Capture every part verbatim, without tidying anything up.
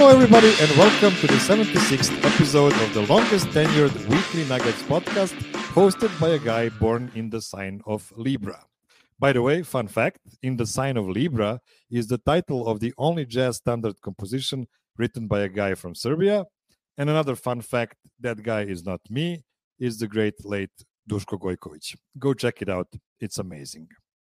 Hello, everybody, and welcome to the seventy-sixth episode of the longest tenured weekly Nuggets podcast, hosted by a guy born in the sign of Libra. By the way, fun fact, in the sign of Libra is the title of the only jazz standard composition written by a guy from Serbia. And another fun fact, that guy is not me, is the great late Duško Gojković. Go check it out. It's amazing.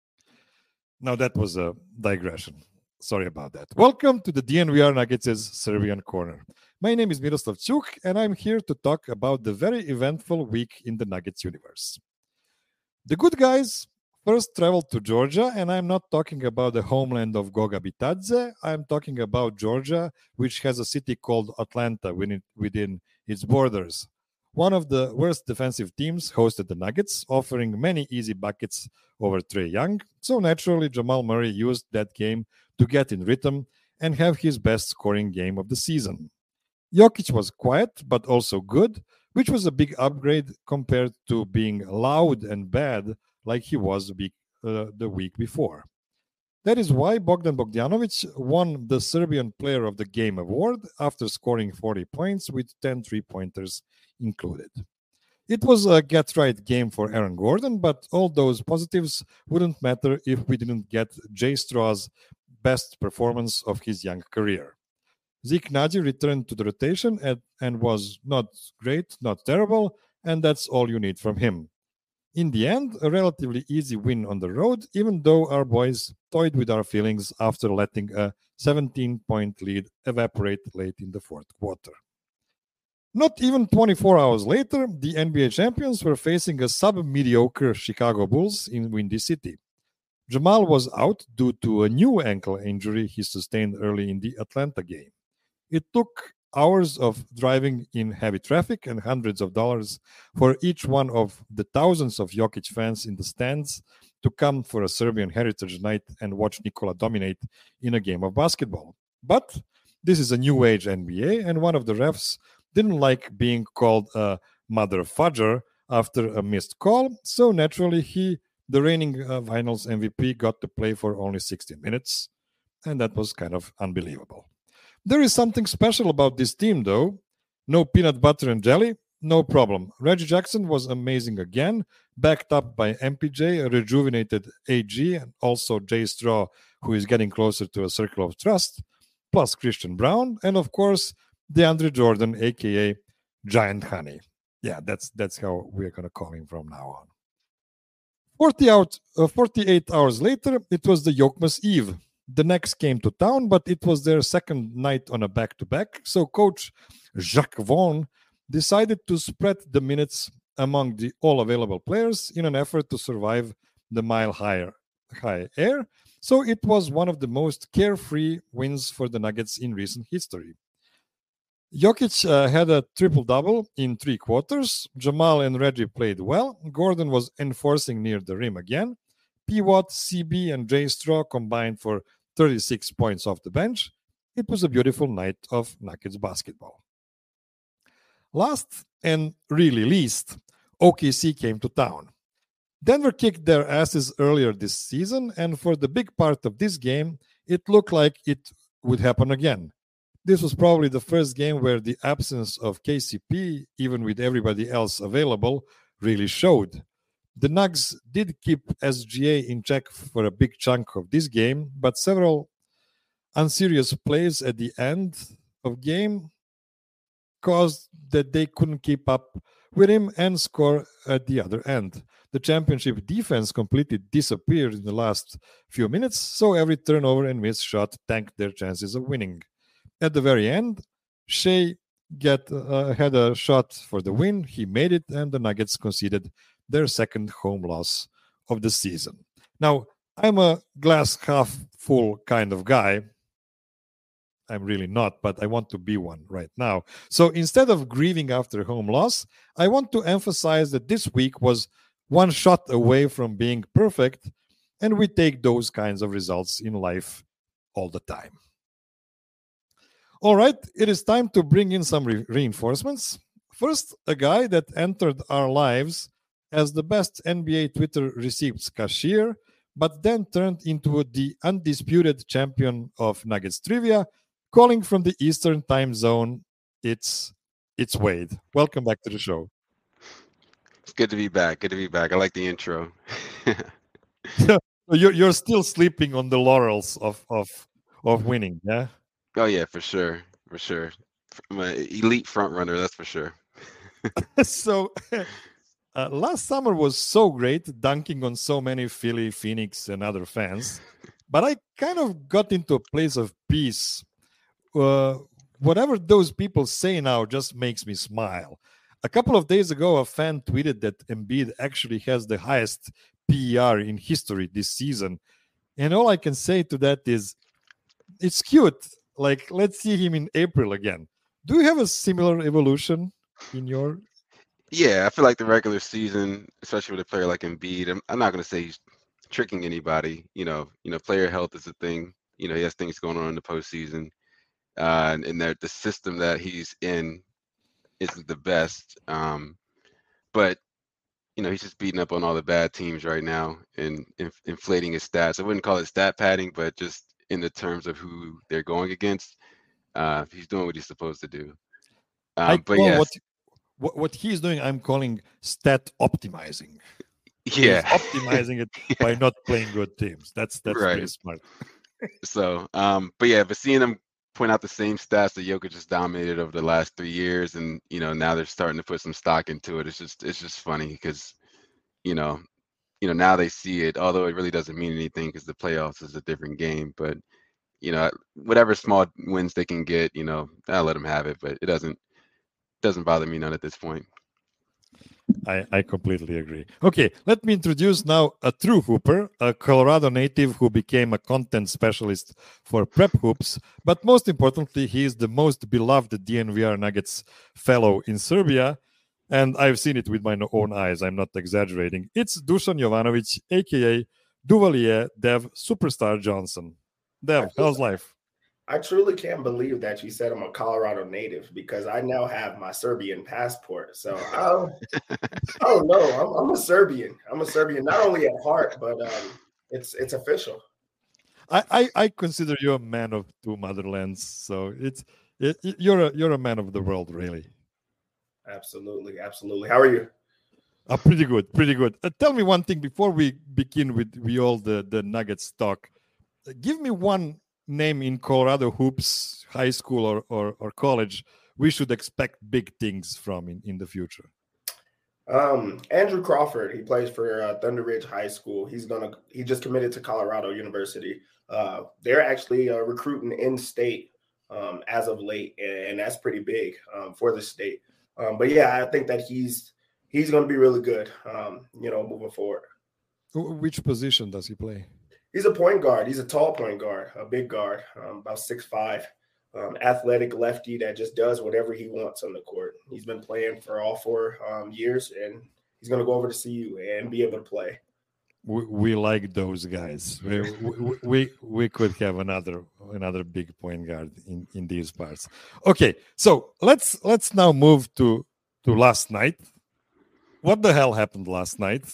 Now, that was a digression. Sorry about that. Welcome to the D N V R Nuggets' Serbian Corner. My name is Miroslav Ćuk, and I'm here to talk about the very eventful week in the Nuggets universe. The good guys first traveled to Georgia, and I'm not talking about the homeland of Goga Bitadze. I'm talking about Georgia, which has a city called Atlanta within, within its borders. One of the worst defensive teams hosted the Nuggets, offering many easy buckets over Trae Young. So naturally, Jamal Murray used that game to get in rhythm and have his best scoring game of the season. Jokic was quiet, but also good, which was a big upgrade compared to being loud and bad like he was the week, uh, the week before. That is why Bogdan Bogdanovic won the Serbian Player of the Game award after scoring forty points with ten three-pointers included. It was a get-right game for Aaron Gordon, but all those positives wouldn't matter if we didn't get Jay Straw's best performance of his young career. Zeke Naji returned to the rotation and, and was not great, not terrible, and that's all you need from him. In the end, a relatively easy win on the road, even though our boys toyed with our feelings after letting a seventeen-point lead evaporate late in the fourth quarter. Not even twenty-four hours later, the N B A champions were facing a sub-mediocre Chicago Bulls in Windy City. Jamal was out due to a new ankle injury he sustained early in the Atlanta game. It took hours of driving in heavy traffic and hundreds of dollars for each one of the thousands of Jokic fans in the stands to come for a Serbian Heritage Night and watch Nikola dominate in a game of basketball. But this is a new age N B A, and one of the refs didn't like being called a mother fudger after a missed call, so naturally he, the reigning uh, Finals M V P, got to play for only sixteen minutes, and that was kind of unbelievable. There is something special about this team, though. No peanut butter and jelly, no problem. Reggie Jackson was amazing again, backed up by M P J, a rejuvenated A G, and also Jay Straw, who is getting closer to a circle of trust, plus Christian Brown, and of course, DeAndre Jordan, a k a. Giant Honey. Yeah, that's that's how we're going to call him from now on. forty out, uh, forty-eight hours later, it was the Yokmas Eve. The Knicks came to town, but it was their second night on a back-to-back, so coach Jacques Vaughn decided to spread the minutes among the all-available players in an effort to survive the mile-high high air, so it was one of the most carefree wins for the Nuggets in recent history. Jokic uh, had a triple-double in three quarters. Jamal and Reggie played well. Gordon was enforcing near the rim again. P. Watt, C B, and Jay Straw combined for thirty-six points off the bench. It was a beautiful night of Nuggets basketball. Last and really least, O K C came to town. Denver kicked their asses earlier this season, and for the big part of this game, it looked like it would happen again. This was probably the first game where the absence of K C P, even with everybody else available, really showed. The Nugs did keep S G A in check for a big chunk of this game, but several unserious plays at the end of game caused that they couldn't keep up with him and score at the other end. The championship defense completely disappeared in the last few minutes, so every turnover and missed shot tanked their chances of winning. At the very end, Shea get, uh, had a shot for the win. He made it, and the Nuggets conceded their second home loss of the season. Now, I'm a glass half full kind of guy. I'm really not, but I want to be one right now. So instead of grieving after a home loss, I want to emphasize that this week was one shot away from being perfect, and we take those kinds of results in life all the time. All right, it is time to bring in some re- reinforcements. First, a guy that entered our lives as the best N B A Twitter receipts cashier, but then turned into the undisputed champion of Nuggets trivia, calling from the Eastern time zone. It's it's Wade. Welcome back to the show. It's good to be back. Good to be back. I like the intro. So you're you're still sleeping on the laurels of of of winning, yeah? Oh yeah, for sure, for sure. I'm an elite front runner, that's for sure. So uh, last summer was so great, dunking on so many Philly, Phoenix, and other fans. But I kind of got into a place of peace. Uh, whatever those people say now just makes me smile. A couple of days ago, a fan tweeted that Embiid actually has the highest P E R in history this season. And all I can say to that is, it's cute. Like, let's see him in April again. Do you have a similar evolution in your? Yeah, I feel like the regular season, especially with a player like Embiid, I'm, I'm not going to say he's tricking anybody. You know, you know, player health is a thing. You know, he has things going on in the postseason, uh, and, and that the system that he's in isn't the best. Um, but you know, he's just beating up on all the bad teams right now and inf- inflating his stats. I wouldn't call it stat padding, but just in the terms of who they're going against, uh, he's doing what he's supposed to do. I Um, but call what yes, what, what he's doing, I'm calling stat optimizing. He's yeah, optimizing it yeah, by not playing good teams. That's that's pretty right. smart. So, um, but yeah, but seeing him point out the same stats that Jokic just dominated over the last three years, and you know now they're starting to put some stock into it. It's just it's just funny because you know you know now they see it, although it really doesn't mean anything because the playoffs is a different game. But you know whatever small wins they can get, you know I'll let them have it. But it doesn't doesn't bother me none at this point. I, I completely agree. Okay, let me introduce now a true hooper, a Colorado native who became a content specialist for Prep Hoops. But most importantly, he is the most beloved D N V R Nuggets fellow in Serbia. And I've seen it with my own eyes. I'm not exaggerating. It's Dusan Jovanovic, aka Duvalier Dev Superstar Johnson. I Dev, just how's life? I truly can't believe that you said I'm a Colorado native because I now have my Serbian passport. So I don't, I don't know. I'm, I'm a Serbian. I'm a Serbian, not only at heart, but um, it's it's official. I, I, I consider you a man of two motherlands. So it's it, you're a you're a man of the world, really. Absolutely, absolutely. How are you? Uh, pretty good, pretty good. Uh, tell me one thing before we begin with we all the the Nuggets talk. Uh, give me one name in Colorado hoops, high school or, or or college. We should expect big things from in, in the future. Um, Andrew Crawford. He plays for uh, Thunder Ridge High School. He's gonna. He just committed to Colorado University. Uh, they're actually uh, recruiting in state um, as of late, and, and that's pretty big um, for the state. Um, but yeah, I think that he's he's going to be really good. Um, you know, moving forward. Wh- Which position does he play? He's a point guard. He's a tall point guard, a big guard, um, about six five, um, athletic lefty that just does whatever he wants on the court. He's been playing for all four um, years, and he's going to go over to C U and be able to play. We, we like those guys. We, we we we could have another another big point guard in in these parts. Okay, so let's let's now move to to last night. What the hell happened last night?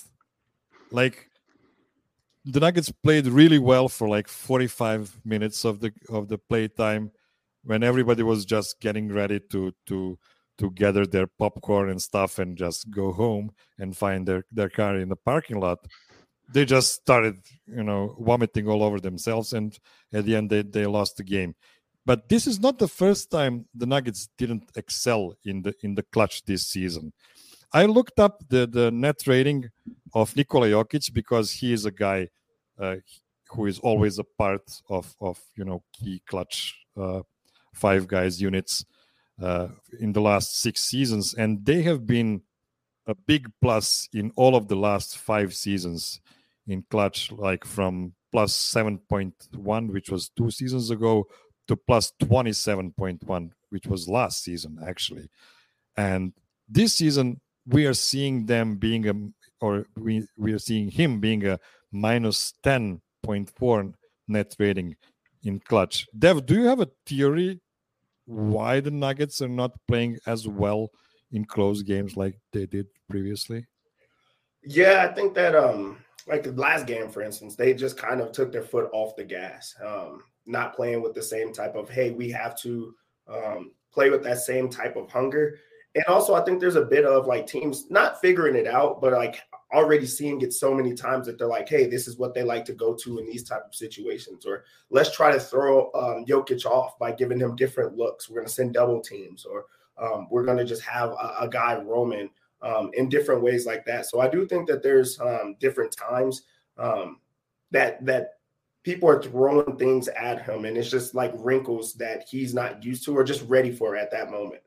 Like the Nuggets played really well for like forty-five minutes of the of the play time when everybody was just getting ready to to to gather their popcorn and stuff and just go home and find their, their car in the parking lot. They just started, you know, vomiting all over themselves, and at the end they, they lost the game. But this is not the first time the Nuggets didn't excel in the in the clutch this season. I looked up the, the net rating of Nikola Jokic because he is a guy uh, who is always a part of, of you know key clutch uh, five guys units uh, in the last six seasons, and they have been a big plus in all of the last five seasons in clutch, like from plus seven point one, which was two seasons ago, to plus twenty-seven point one, which was last season actually. And this season we are seeing them being a, or we, we are seeing him being a minus ten point four net rating in clutch. Dev, do you have a theory why the Nuggets are not playing as well in close games like they did previously? Yeah, I think that um like the last game, for instance, they just kind of took their foot off the gas. Um, not playing with the same type of, hey, we have to um, play with that same type of hunger. And also, I think there's a bit of like teams not figuring it out, but like already seeing it so many times that they're like, hey, this is what they like to go to in these type of situations. Or let's try to throw um, Jokic off by giving him different looks. We're going to send double teams, or um, we're going to just have a, a guy roaming um, in different ways like that. So I do think that there's um, different times um, that that people are throwing things at him, and it's just like wrinkles that he's not used to or just ready for at that moment.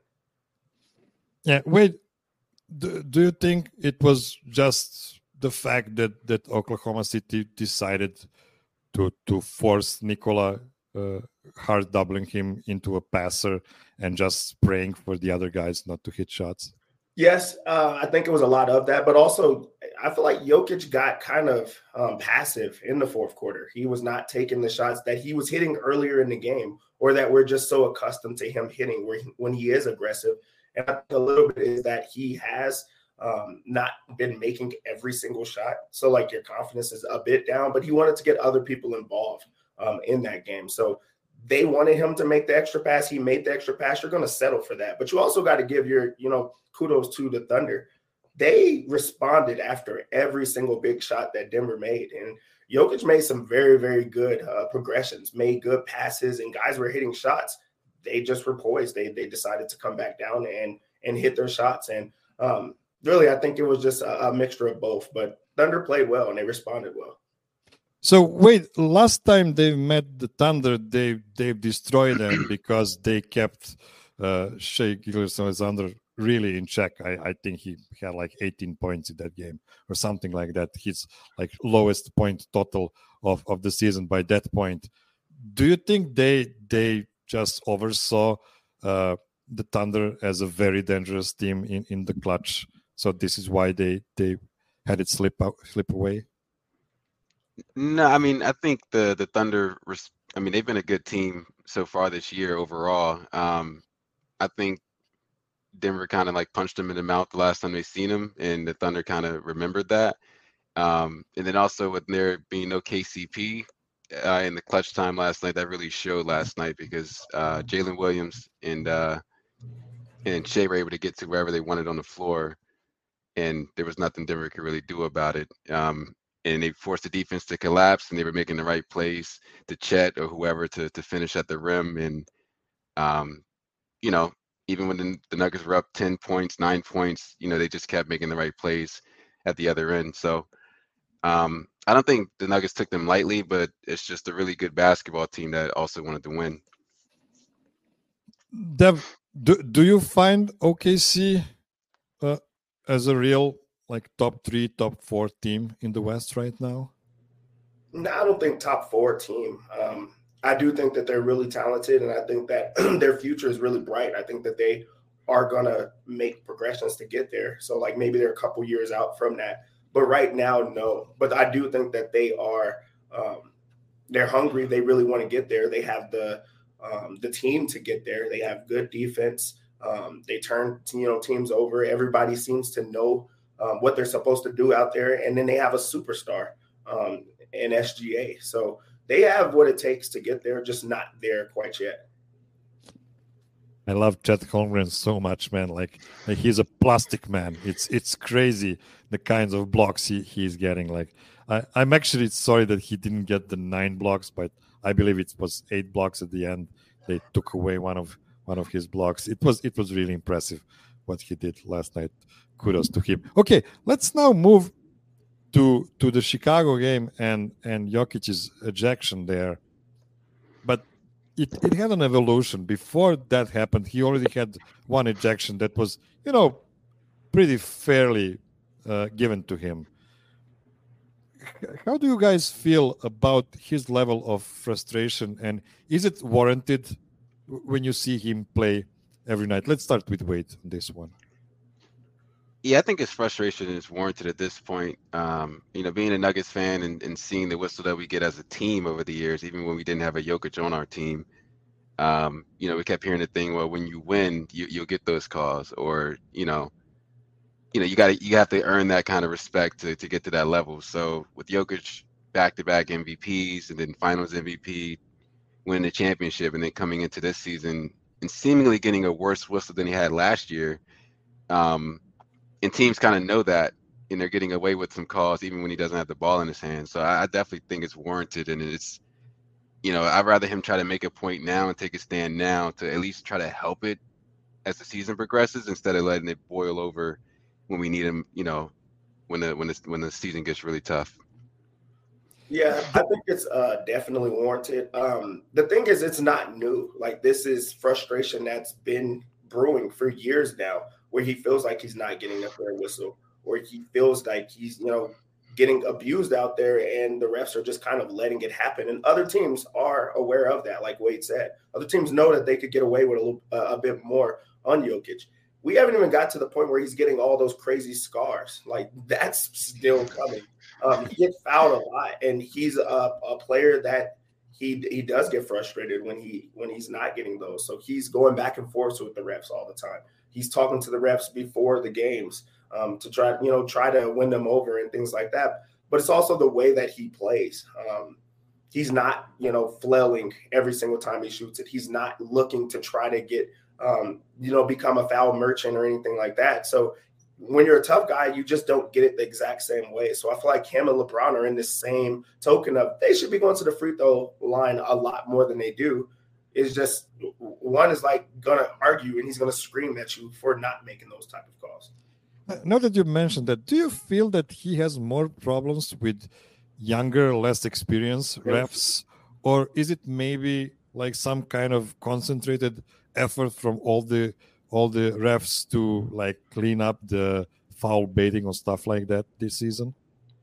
Yeah, wait. Do, do you think it was just the fact that, that Oklahoma City decided to to force Nikola uh, hard doubling him into a passer and just praying for the other guys not to hit shots? Yes, uh, I think it was a lot of that, but also I feel like Jokic got kind of um, passive in the fourth quarter. He was not taking the shots that he was hitting earlier in the game, or that we're just so accustomed to him hitting where he, when he is aggressive. And I think a little bit is that he has um, not been making every single shot. So like your confidence is a bit down, but he wanted to get other people involved um, in that game. So they wanted him to make the extra pass. He made the extra pass. You're going to settle for that. But you also got to give your, you know, kudos to the Thunder. They responded after every single big shot that Denver made. And Jokic made some very, very good uh, progressions, made good passes, and guys were hitting shots. They just were poised. They they decided to come back down and and hit their shots. And um, really, I think it was just a, a mixture of both. But Thunder played well, and they responded well. So wait, last time they met the Thunder, they they destroyed them because they kept uh, Shai Gilgeous-Alexander really in check. I, I think he had like eighteen points in that game or something like that. His like lowest point total of, of the season by that point. Do you think they they just oversaw uh, the Thunder as a very dangerous team in, in the clutch? So this is why they they had it slip out, slip away? No, I mean, I think the the Thunder, I mean, they've been a good team so far this year overall. Um, I think Denver kind of like punched them in the mouth the last time they seen them, and the Thunder kind of remembered that. Um, and then also with there being no K C P uh, in the clutch time last night, that really showed last night because uh, Jalen Williams and uh, and Shai were able to get to wherever they wanted on the floor, and there was nothing Denver could really do about it. Um, and they forced the defense to collapse, and they were making the right plays to Chet or whoever to to finish at the rim. And um, you know, even when the, the Nuggets were up ten points, nine points, you know, they just kept making the right plays at the other end. So um, I don't think the Nuggets took them lightly, but it's just a really good basketball team that also wanted to win. Dev, do, do you find O K C uh, as a real like top three, top four team in the West right now? No, I don't think top four team. Um, I do think that they're really talented, and I think that their future is really bright. I think that they are going to make progressions to get there. So, like, maybe they're a couple years out from that. But right now, no. But I do think that they are um, – they're hungry. They really want to get there. They have the um, the team to get there. They have good defense. Um, they turn, you know, teams over. Everybody seems to know um, what they're supposed to do out there. And then they have a superstar um, in S G A. So – they have what it takes to get there, just not there quite yet. I love Chet Holmgren so much, man. Like, like he's a plastic man. It's it's crazy the kinds of blocks he, he's getting. Like, I, I'm actually sorry that he didn't get the nine blocks, but I believe it was eight blocks at the end. They took away one of one of his blocks. It was it was really impressive what he did last night. Kudos to him. Okay, let's now move to to the Chicago game and and Jokic's ejection there. But it, it had an evolution. Before that happened, he already had one ejection that was, you know, pretty fairly uh, given to him. How do you guys feel about his level of frustration, and is it warranted when you see him play every night? Let's start with Wade on this one. Yeah, I think his frustration is warranted at this point. Um, you know, being a Nuggets fan and, and seeing the whistle that we get as a team over the years, even when we didn't have a Jokic on our team, um, you know, we kept hearing the thing, well, when you win, you, you'll get those calls, or, you know, you know, you got to, you have to earn that kind of respect to, to get to that level. So with Jokic back-to-back M V Ps and then finals M V P, winning the championship, and then coming into this season and seemingly getting a worse whistle than he had last year. Um, and teams kind of know that, and they're getting away with some calls even when he doesn't have the ball in his hand. So I, I definitely think it's warranted, and it's, you know, I'd rather him try to make a point now and take a stand now to at least try to help it as the season progresses, instead of letting it boil over when we need him, you know, when the when the when the season gets really tough. Yeah, I think it's uh, definitely warranted. Um, the thing is, it's not new. Like, this is frustration that's been brewing for years now, where he feels like he's not getting a fair whistle, or he feels like he's, you know, getting abused out there, and the refs are just kind of letting it happen. And other teams are aware of that, like Wade said. Other teams know that they could get away with a, little, uh, a bit more on Jokic. We haven't even got to the point where he's getting all those crazy scars. Like, that's still coming. Um, he gets fouled a lot, and he's a, a player that he he does get frustrated when he when he's not getting those. So he's going back and forth with the refs all the time. He's talking to the refs before the games um, to try you know try to win them over and things like that. But it's also the way that he plays. Um, he's not you know flailing every single time he shoots it. He's not looking to try to get um, you know become a foul merchant or anything like that. So when you're a tough guy, you just don't get it the exact same way. So I feel like him and LeBron are in this same token of they should be going to the free throw line a lot more than they do. It's just one is like going to argue and he's going to scream at you for not making those type of calls. Now that you mentioned that, do you feel that he has more problems with younger, less experienced refs, or is it maybe like some kind of concentrated effort from all the all the refs to like clean up the foul baiting or stuff like that this season?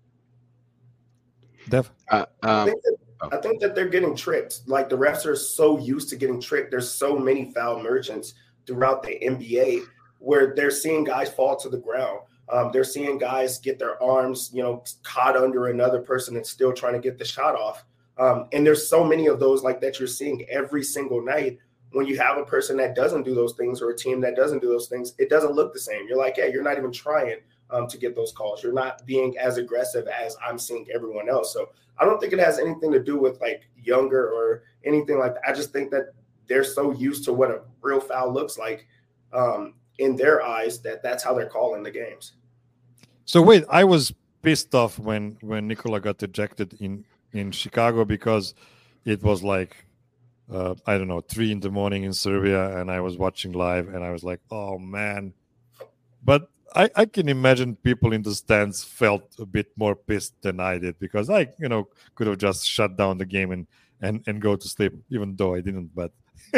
Dev? Uh, um, I, think that, I think that they're getting tricked. Like, the refs are so used to getting tricked. There's so many foul merchants throughout the N B A where they're seeing guys fall to the ground. Um, they're seeing guys get their arms, you know, caught under another person and still trying to get the shot off. Um, and there's so many of those like that you're seeing every single night. When you have a person that doesn't do those things or a team that doesn't do those things, it doesn't look the same. You're like, yeah, you're not even trying um, to get those calls. You're not being as aggressive as I'm seeing everyone else. So I don't think it has anything to do with like younger or anything like that. I just think that they're so used to what a real foul looks like um, in their eyes that that's how they're calling the games. So wait, I was pissed off when when Nikola got ejected in in Chicago because it was like, Uh, I don't know, three in the morning in Serbia, and I was watching live, and I was like, oh, man. But I, I can imagine people in the stands felt a bit more pissed than I did, because I, you know, could have just shut down the game and, and, and go to sleep, even though I didn't. But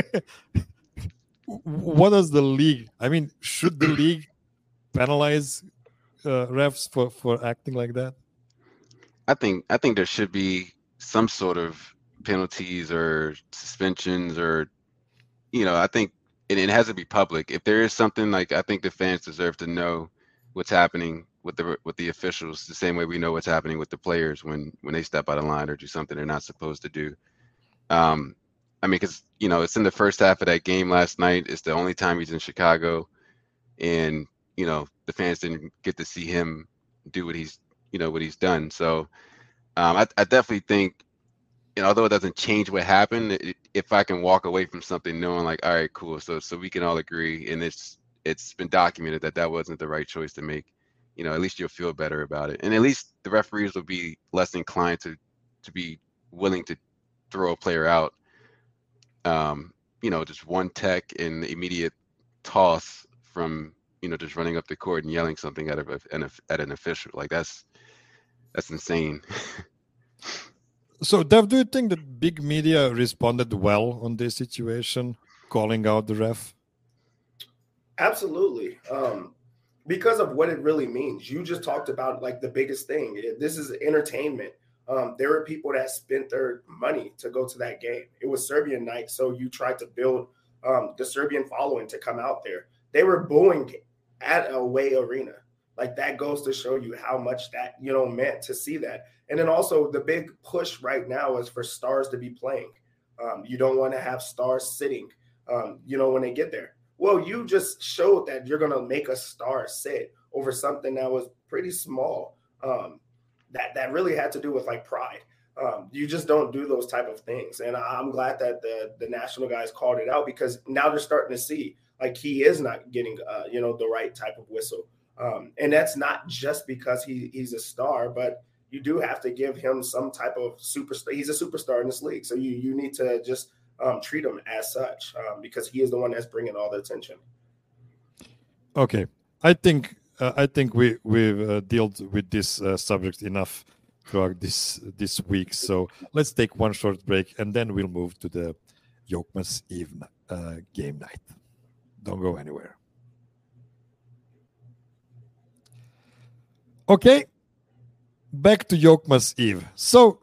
what does the league, I mean, should the league penalize uh, refs for, for acting like that? I think I think there should be some sort of penalties or suspensions, or, you know, I think it, it has to be public. If there is something, like, I think the fans deserve to know what's happening with the with the officials, the same way we know what's happening with the players when when they step out of line or do something they're not supposed to do. Um, I mean, because, you know, it's in the first half of that game last night. It's the only time he's in Chicago, and, you know, the fans didn't get to see him do what he's, you know, what he's done. So um, I, I definitely think, and although it doesn't change what happened, it, if I can walk away from something knowing like, all right, cool, so so we can all agree, and it's it's been documented that that wasn't the right choice to make, you know, at least you'll feel better about it, and at least the referees will be less inclined to to be willing to throw a player out. Um, you know, just one tech and immediate toss from, you know, just running up the court and yelling something at a, an at an official, like that's that's insane. So, Dev, do you think that big media responded well on this situation, calling out the ref? Absolutely. Um, because of what it really means. You just talked about like the biggest thing. This is entertainment. Um, there were people that spent their money to go to that game. It was Serbian night, so you tried to build um, the Serbian following to come out there. They were booing at a away arena. Like, that goes to show you how much that, you know, meant to see that. And then also the big push right now is for stars to be playing. Um, you don't want to have stars sitting, um, you know, when they get there. Well, you just showed that you're going to make a star sit over something that was pretty small. Um, that, that really had to do with like pride. Um, you just don't do those type of things. And I'm glad that the the national guys called it out, because now they're starting to see like he is not getting uh, you know, the right type of whistle. Um, and that's not just because he he's a star, but you do have to give him some type of superstar. He's a superstar in this league, so you you need to just um, treat him as such, um, because he is the one that's bringing all the attention. Okay, I think uh, I think we we've uh, dealt with this uh, subject enough throughout this this week. So let's take one short break, and then we'll move to the Yokmas Eve uh, game night. Don't go anywhere. Okay, back to Yokmas Eve. So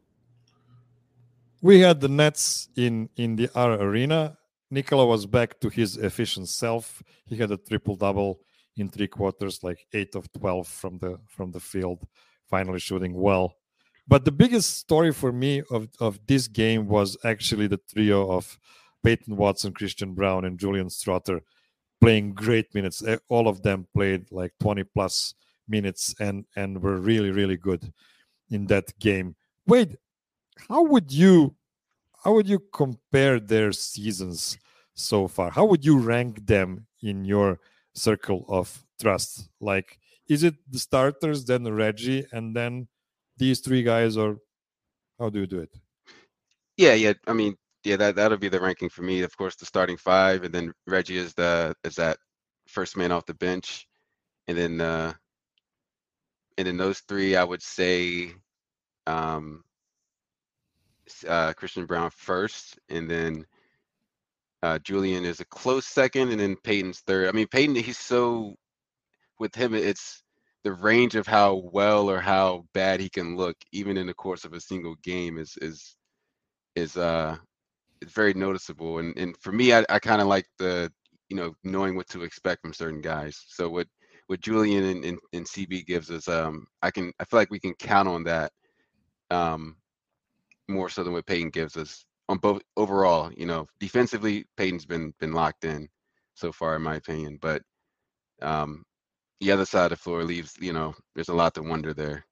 we had the Nets in in the R arena. Nikola was back to his efficient self. He had a triple double in three quarters, like eight of twelve from the from the field, finally shooting well. But the biggest story for me of, of this game was actually the trio of Peyton Watson, Christian Braun, and Julian Strother playing great minutes. All of them played like twenty plus minutes and and were really, really good in that game. Wade, how would you how would you compare their seasons so far? How would you rank them in your circle of trust? Like, is it the starters, then Reggie, and then these three guys, or how do you do it? Yeah, yeah. I mean, yeah, that that'll be the ranking for me. Of course, the starting five, and then Reggie is the is that first man off the bench, and then uh, and then those three, I would say, um, uh, Christian Braun first, and then uh, Julian is a close second, and then Peyton's third. I mean, Peyton, he's so with him, it's the range of how well or how bad he can look, even in the course of a single game, is is is uh it's very noticeable. And and for me, I, I kind of like the you know knowing what to expect from certain guys. So what what Julian and, and, and C B gives us, um, I can I feel like we can count on that um, more so than what Peyton gives us on both overall. You know, defensively, Peyton's been been locked in so far, in my opinion. But um, the other side of the floor leaves, you know, there's a lot to wonder there.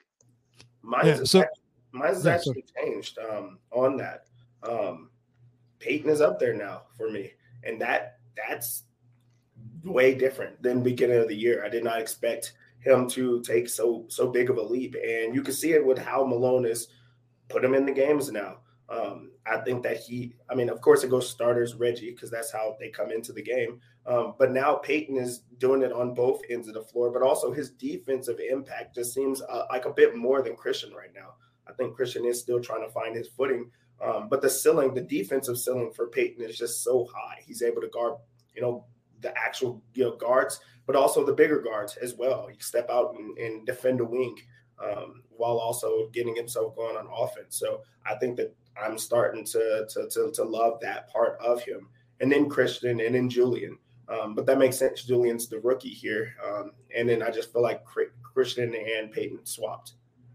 Mine's Yeah, so actually, mine's has yeah, actually changed um, on that. Um, Peyton is up there now for me, and that that's way different than beginning of the year. I did not expect him to take so so big of a leap, and you can see it with how Malone is put him in the games now. Um, I think that he, I mean, of course, it goes starters Reggie because that's how they come into the game. Um, but now Peyton is doing it on both ends of the floor, but also his defensive impact just seems uh, like a bit more than Christian right now. I think Christian is still trying to find his footing, um, but the ceiling, the defensive ceiling for Peyton is just so high. He's able to guard, you know, the actual you know guards, but also the bigger guards as well. He can step out and, and defend a wing. Um, while also getting himself going on offense. So I think that I'm starting to, to, to, to love that part of him. And then Christian and then Julian. Um, but that makes sense. Julian's the rookie here. Um, and then I just feel like Christian and Peyton swapped.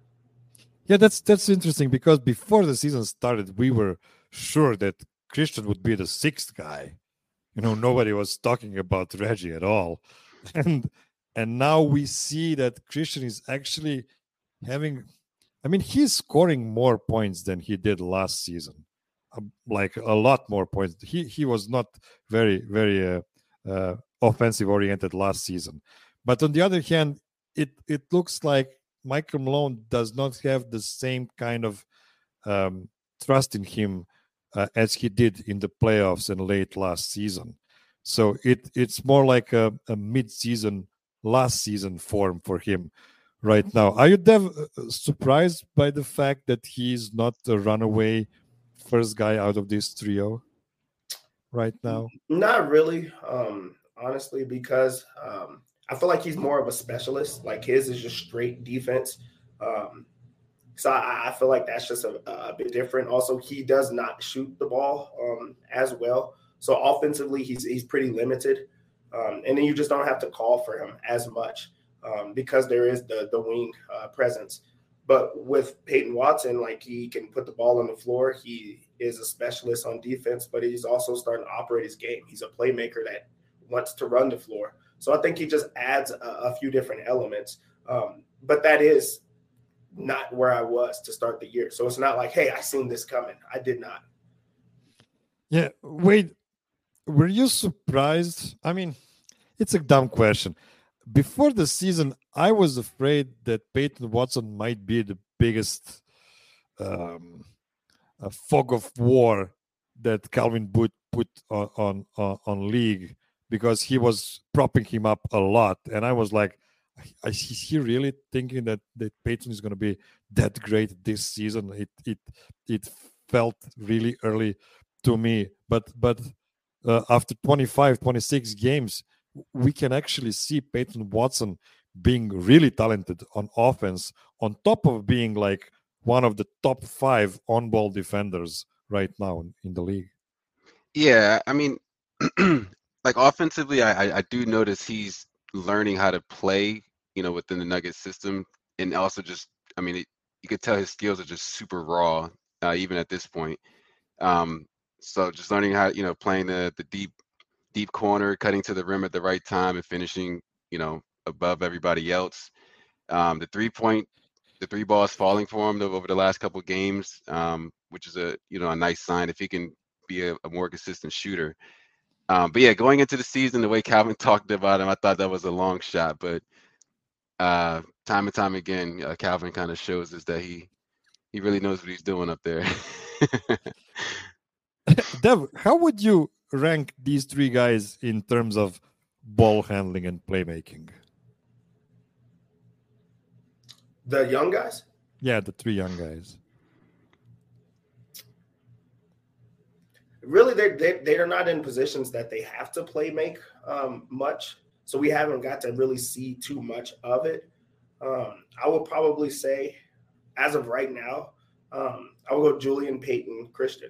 Yeah, that's that's interesting because before the season started, we were sure that Christian would be the sixth guy. You know, nobody was talking about Reggie at all. And and now we see that Christian is actually having, I mean, he's scoring more points than he did last season, uh, like a lot more points. He he was not very very uh, uh, offensive oriented last season, but on the other hand, it it looks like Michael Malone does not have the same kind of um, trust in him uh, as he did in the playoffs and late last season. So it it's more like a, a mid-season last season form for him right now. Are you Dev, uh, surprised by the fact that he's not a runaway first guy out of this trio right now? Not really, um, honestly, because um, I feel like he's more of a specialist. Like his is just straight defense. Um, so I, I feel like that's just a, a bit different. Also, he does not shoot the ball um, as well. So offensively, he's he's pretty limited. Um, and then you just don't have to call for him as much. Um, because there is the the wing uh, presence. But with Peyton Watson, like he can put the ball on the floor. He is a specialist on defense, but he's also starting to operate his game. He's a playmaker that wants to run the floor. So I think he just adds a, a few different elements. Um, but that is not where I was to start the year. So it's not like, hey, I seen this coming. I did not. Yeah, wait, were you surprised? I mean, it's a dumb question. Before the season, I was afraid that Peyton Watson might be the biggest um, uh, fog of war that Calvin Booth put on, on on on league, because he was propping him up a lot, and I was like, is he really thinking that that Peyton is going to be that great this season? It it it felt really early to me, but but uh, after twenty-five, twenty-six games, we can actually see Peyton Watson being really talented on offense, on top of being like one of the top five on-ball defenders right now in, in the league. Yeah, I mean, like offensively, I, I I do notice he's learning how to play, you know, within the Nuggets system, and also just, I mean, it, you could tell his skills are just super raw, uh, even at this point. Um, so just learning how, you know, playing the the deep deep corner, cutting to the rim at the right time, and finishing, you know, above everybody else. Um, the three point, the three balls falling for him over the last couple of games, um, which is a, you know, a nice sign if he can be a, a more consistent shooter. Um, but yeah, going into the season, the way Calvin talked about him, I thought that was a long shot. But uh, time and time again, uh, Calvin kind of shows us that he he really knows what he's doing up there. Dev, how would you rank these three guys in terms of ball handling and playmaking? The young guys? Yeah, the three young guys. Really, they they they are not in positions that they have to play make um, much, so we haven't got to really see too much of it. Um, I would probably say, as of right now, um, I would go Julian, Peyton, Christian.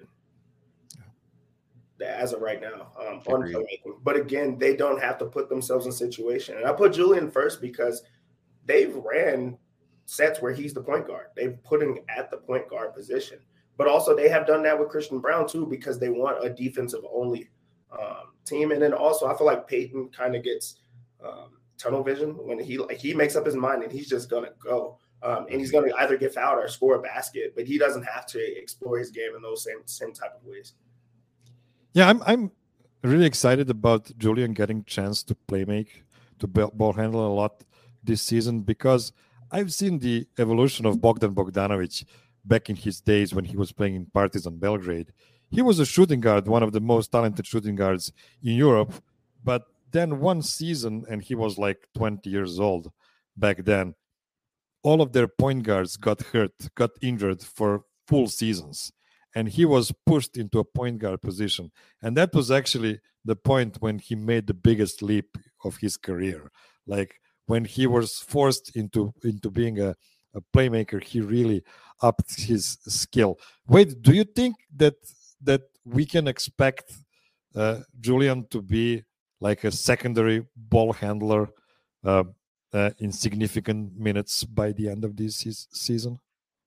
As of right now, um, on playmaking. But again, they don't have to put themselves in situation. And I put Julian first because they've ran sets where he's the point guard. They've put him at the point guard position. But also they have done that with Christian Braun too, because they want a defensive only um, team. And then also I feel like Peyton kind of gets um, tunnel vision when he like he makes up his mind and he's just gonna go. Um, and he's gonna either get fouled or score a basket, but he doesn't have to explore his game in those same same type of ways. Yeah, I'm I'm really excited about Julian getting chance to play make, to ball handle a lot this season, because I've seen the evolution of Bogdan Bogdanovic back in his days when he was playing in Partizan Belgrade. He was a shooting guard, one of the most talented shooting guards in Europe. But then one season, and he was like twenty years old back then, all of their point guards got hurt, got injured for full seasons. And he was pushed into a point guard position. And that was actually the point when he made the biggest leap of his career. Like when he was forced into, into being a, a playmaker, he really upped his skill. Wait, do you think that that we can expect uh, Julian to be like a secondary ball handler uh, uh, in significant minutes by the end of this se- season?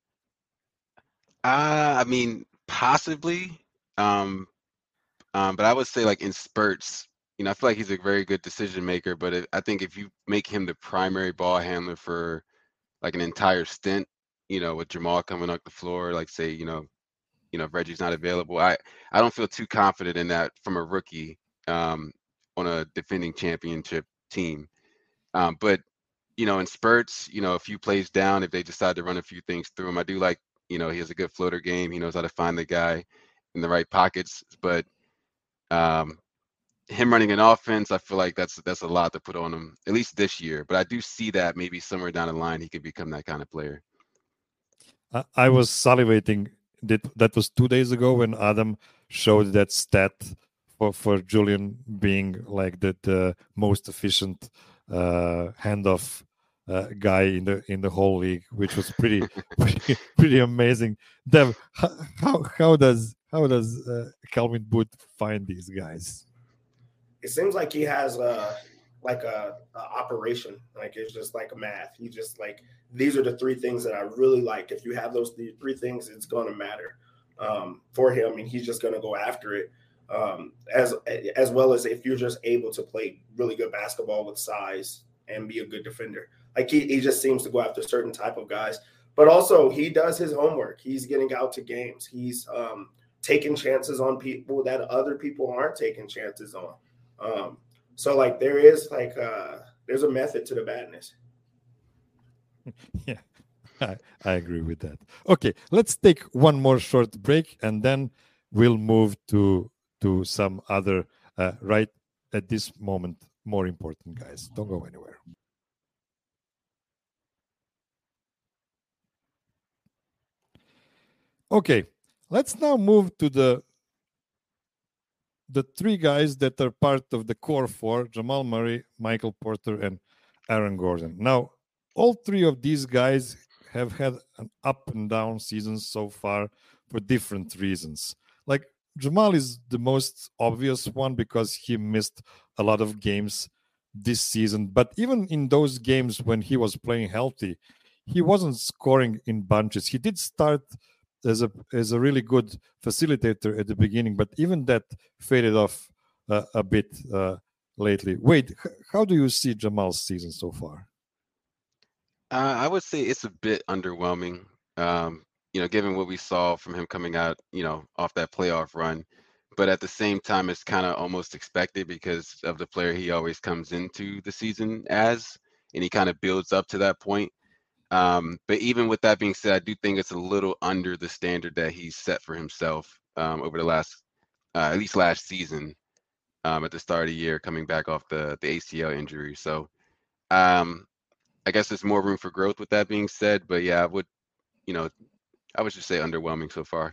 Uh, I mean, possibly. Um, um, but I would say like in spurts, you know, I feel like he's a very good decision maker, but it, I think if you make him the primary ball handler for like an entire stint, you know, with Jamal coming up the floor, like say, you know, you know, if Reggie's not available, I, I don't feel too confident in that from a rookie um, on a defending championship team. Um, but, you know, in spurts, you know, a few plays down, if they decide to run a few things through him, I do like, you know, he has a good floater game. He knows how to find the guy in the right pockets. But um, him running an offense, I feel like that's that's a lot to put on him, at least this year. But I do see that maybe somewhere down the line he could become that kind of player. I, I was salivating. That that was two days ago when Adam showed that stat for, for Julian being like the, the most efficient uh, handoff uh, guy in the in the whole league, which was pretty pretty, pretty amazing. Dev, how how, how does how does uh, Calvin Booth find these guys? It seems like he has a like a, a operation. Like it's just like a math. He just like these are the three things that I really like. If you have those th- three things, it's going to matter um, for him, and he's just going to go after it. Um, as as well as if you're just able to play really good basketball with size and be a good defender. Like he, he just seems to go after certain type of guys. but also he does his homework. He's getting out to games. He's um, taking chances on people that other people aren't taking chances on. Um, so like there is like uh, there's a method to the madness. Yeah, I, I agree with that. Okay, let's take one more short break and then we'll move to to some other uh, right at this moment more important guys. Don't go anywhere. Okay, let's now move to the the three guys that are part of the core four: Jamal Murray, Michael Porter, and Aaron Gordon. Now, all three of these guys have had an up and down season so far for different reasons. Like Jamal is the most obvious one because he missed a lot of games this season. But even in those games when he was playing healthy, he wasn't scoring in bunches. He did start as a as a really good facilitator at the beginning, but even that faded off uh, a bit uh, lately. Wait, h- how do you see Jamal's season so far? Uh, I would say it's a bit underwhelming. Um, you know, given what we saw from him coming out, you know, off that playoff run. But at the same time, it's kind of almost expected because of the player he always comes into the season as, and he kind of builds up to that point. Um, but even with that being said, I do think it's a little under the standard that he's set for himself um, over the last, uh, at least last season, um, at the start of the year, coming back off the the A C L injury. So um, I guess there's more room for growth with that being said. But yeah, I would, you know, I would just say underwhelming so far.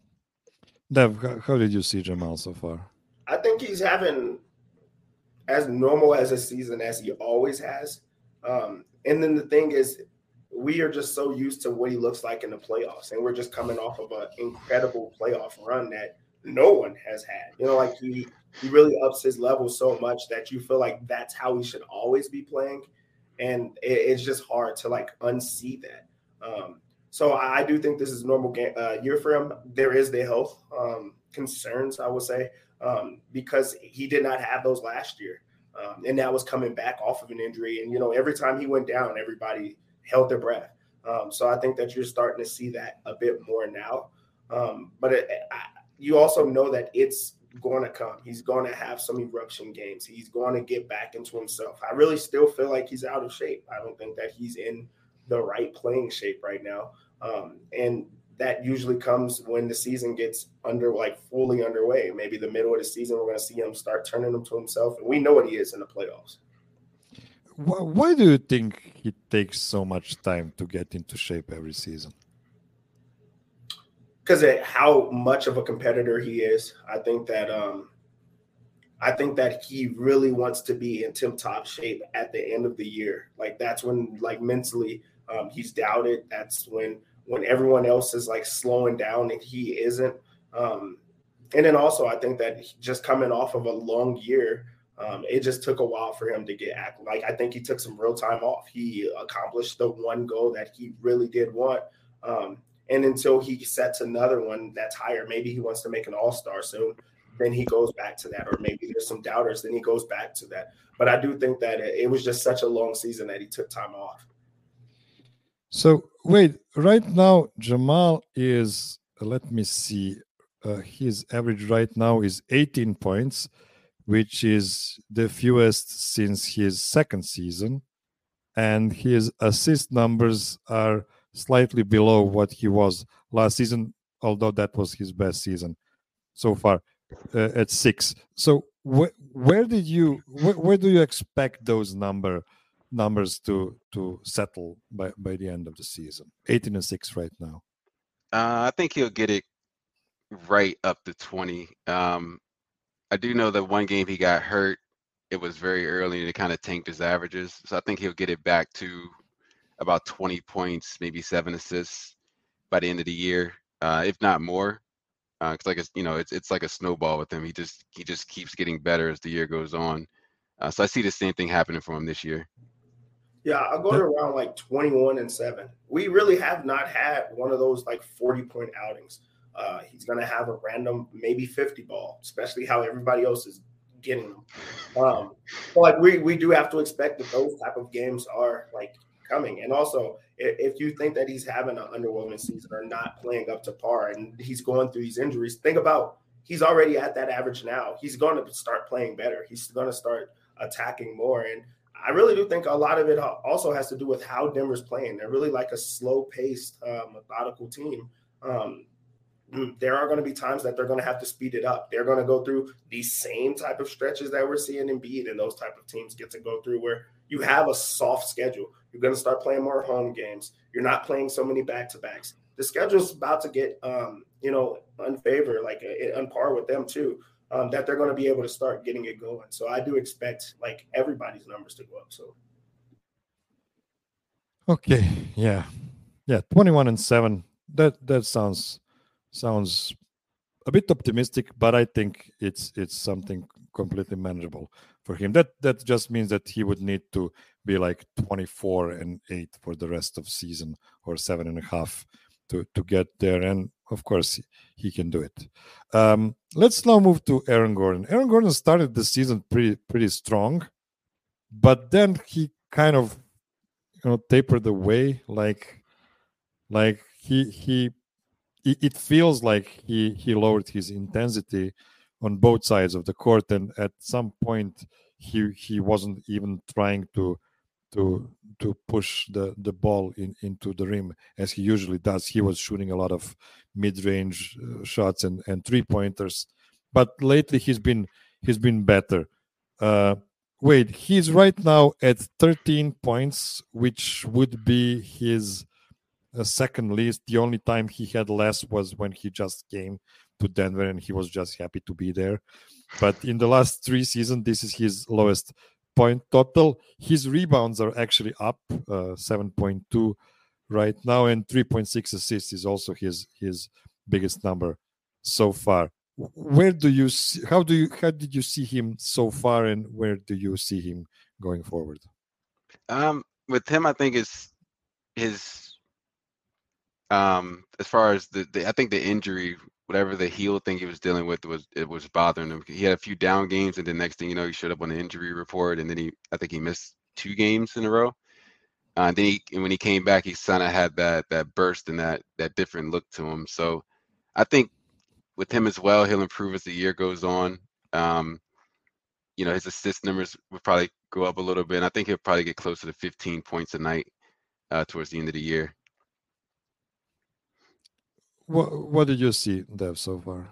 Dev, how, how did you see Jamal so far? I think he's having as normal as a season as he always has. Um, and then the thing is, we are just so used to what he looks like in the playoffs, and we're just coming off of an incredible playoff run that no one has had. You know, like he he really ups his level so much that you feel like that's how he should always be playing, and it, it's just hard to like unsee that. Um, so I, I do think this is a normal game, uh, year for him. There is the health um, concerns, I would say, um, because he did not have those last year. Um, and that was coming back off of an injury. And, you know, every time he went down, everybody held their breath. Um, so I think that you're starting to see that a bit more now. Um, but it, I, you also know that it's going to come. He's going to have some eruption games. He's going to get back into himself. I really still feel like he's out of shape. I don't think that he's in the right playing shape right now. Um, and that usually comes when the season gets under like fully underway. Maybe the middle of the season, we're going to see him start turning him to himself. And we know what he is in the playoffs. Why, why do you think he takes so much time to get into shape every season? Because of how much of a competitor he is. I think that um, I think that he really wants to be in tip-top shape at the end of the year. Like that's when like mentally um, he's doubted. That's when when everyone else is like slowing down and he isn't. Um, and then also I think that just coming off of a long year, um, it just took a while for him to get act. Like I think he took some real time off. He accomplished the one goal that he really did want. Um, and until he sets another one that's higher, maybe he wants to make an all-star soon, then he goes back to that. Or maybe there's some doubters, then he goes back to that. But I do think that it, it was just such a long season that he took time off. So wait, right now Jamal is, let me see, uh, his average right now is eighteen points, which is the fewest since his second season, and his assist numbers are slightly below what he was last season, although that was his best season so far uh, at six. So wh- where did you wh- where do you expect those number numbers to to settle by by the end of the season? eighteen and six right now. Uh, I think he'll get it right up to twenty. Um, I do know that one game he got hurt. It was very early and it kind of tanked his averages. So I think he'll get it back to about twenty points, maybe seven assists by the end of the year, uh, if not more. Uh, it's like a, you know, it's it's like a snowball with him. He just he just keeps getting better as the year goes on. Uh, so I see the same thing happening for him this year. Yeah, I'll go to around like twenty-one and seven. We really have not had one of those like forty point outings. Uh, he's going to have a random, maybe fifty ball, especially how everybody else is getting them. Um, but like we, we do have to expect that those type of games are like coming. And also, if you think that he's having an underwhelming season or not playing up to par and he's going through these injuries, think about he's already at that average now. He's going to start playing better. He's going to start attacking more. And I really do think a lot of it also has to do with how Denver's playing. They're really like a slow-paced, uh, methodical team. Um, there are going to be times that they're going to have to speed it up. They're going to go through these same type of stretches that we're seeing Embiid and those type of teams get to go through where you have a soft schedule. You're going to start playing more home games. You're not playing so many back-to-backs. The schedule's about to get, um, you know, unfavor, like uh, on par with them too, um, that they're going to be able to start getting it going. So I do expect like everybody's numbers to go up. So. Okay. Yeah. Yeah. twenty-one and seven. That, that sounds, sounds a bit optimistic, but I think it's, it's something completely manageable for him. That, that just means that he would need to be like twenty-four and eight for the rest of season or seven and a half to, to get there. And of course he can do it. Um, let's now move to Aaron Gordon. Aaron Gordon started the season pretty, pretty strong, but then he kind of, you know, tapered away. Like, like he, he, it feels like he, he lowered his intensity on both sides of the court. And at some point he, he wasn't even trying to, to to push the the ball in into the rim as he usually does. He was shooting a lot of mid-range uh, shots and and three pointers, but lately he's been he's been better. Uh wait, he's right now at thirteen points, which would be his uh, second least. The only time he had less was when he just came to Denver and he was just happy to be there. But in the last three seasons, this is his lowest point total. His rebounds are actually up, uh, seven point two right now, and three point six assists is also his his biggest number so far. Where do you see, how do you how did you see him so far, and where do you see him going forward? Um, with him, I think it's his um as far as the, the I think the injury, whatever the heel thing he was dealing with was it was bothering him. He had a few down games, and the next thing you know, he showed up on the injury report, and then he I think he missed two games in a row. Uh, and then he and when he came back, he kind of had that that burst and that that different look to him. So I think with him as well, he'll improve as the year goes on. Um, you know, his assist numbers will probably go up a little bit, and I think he'll probably get closer to fifteen points a night uh, towards the end of the year. What what did you see, Dev, so far?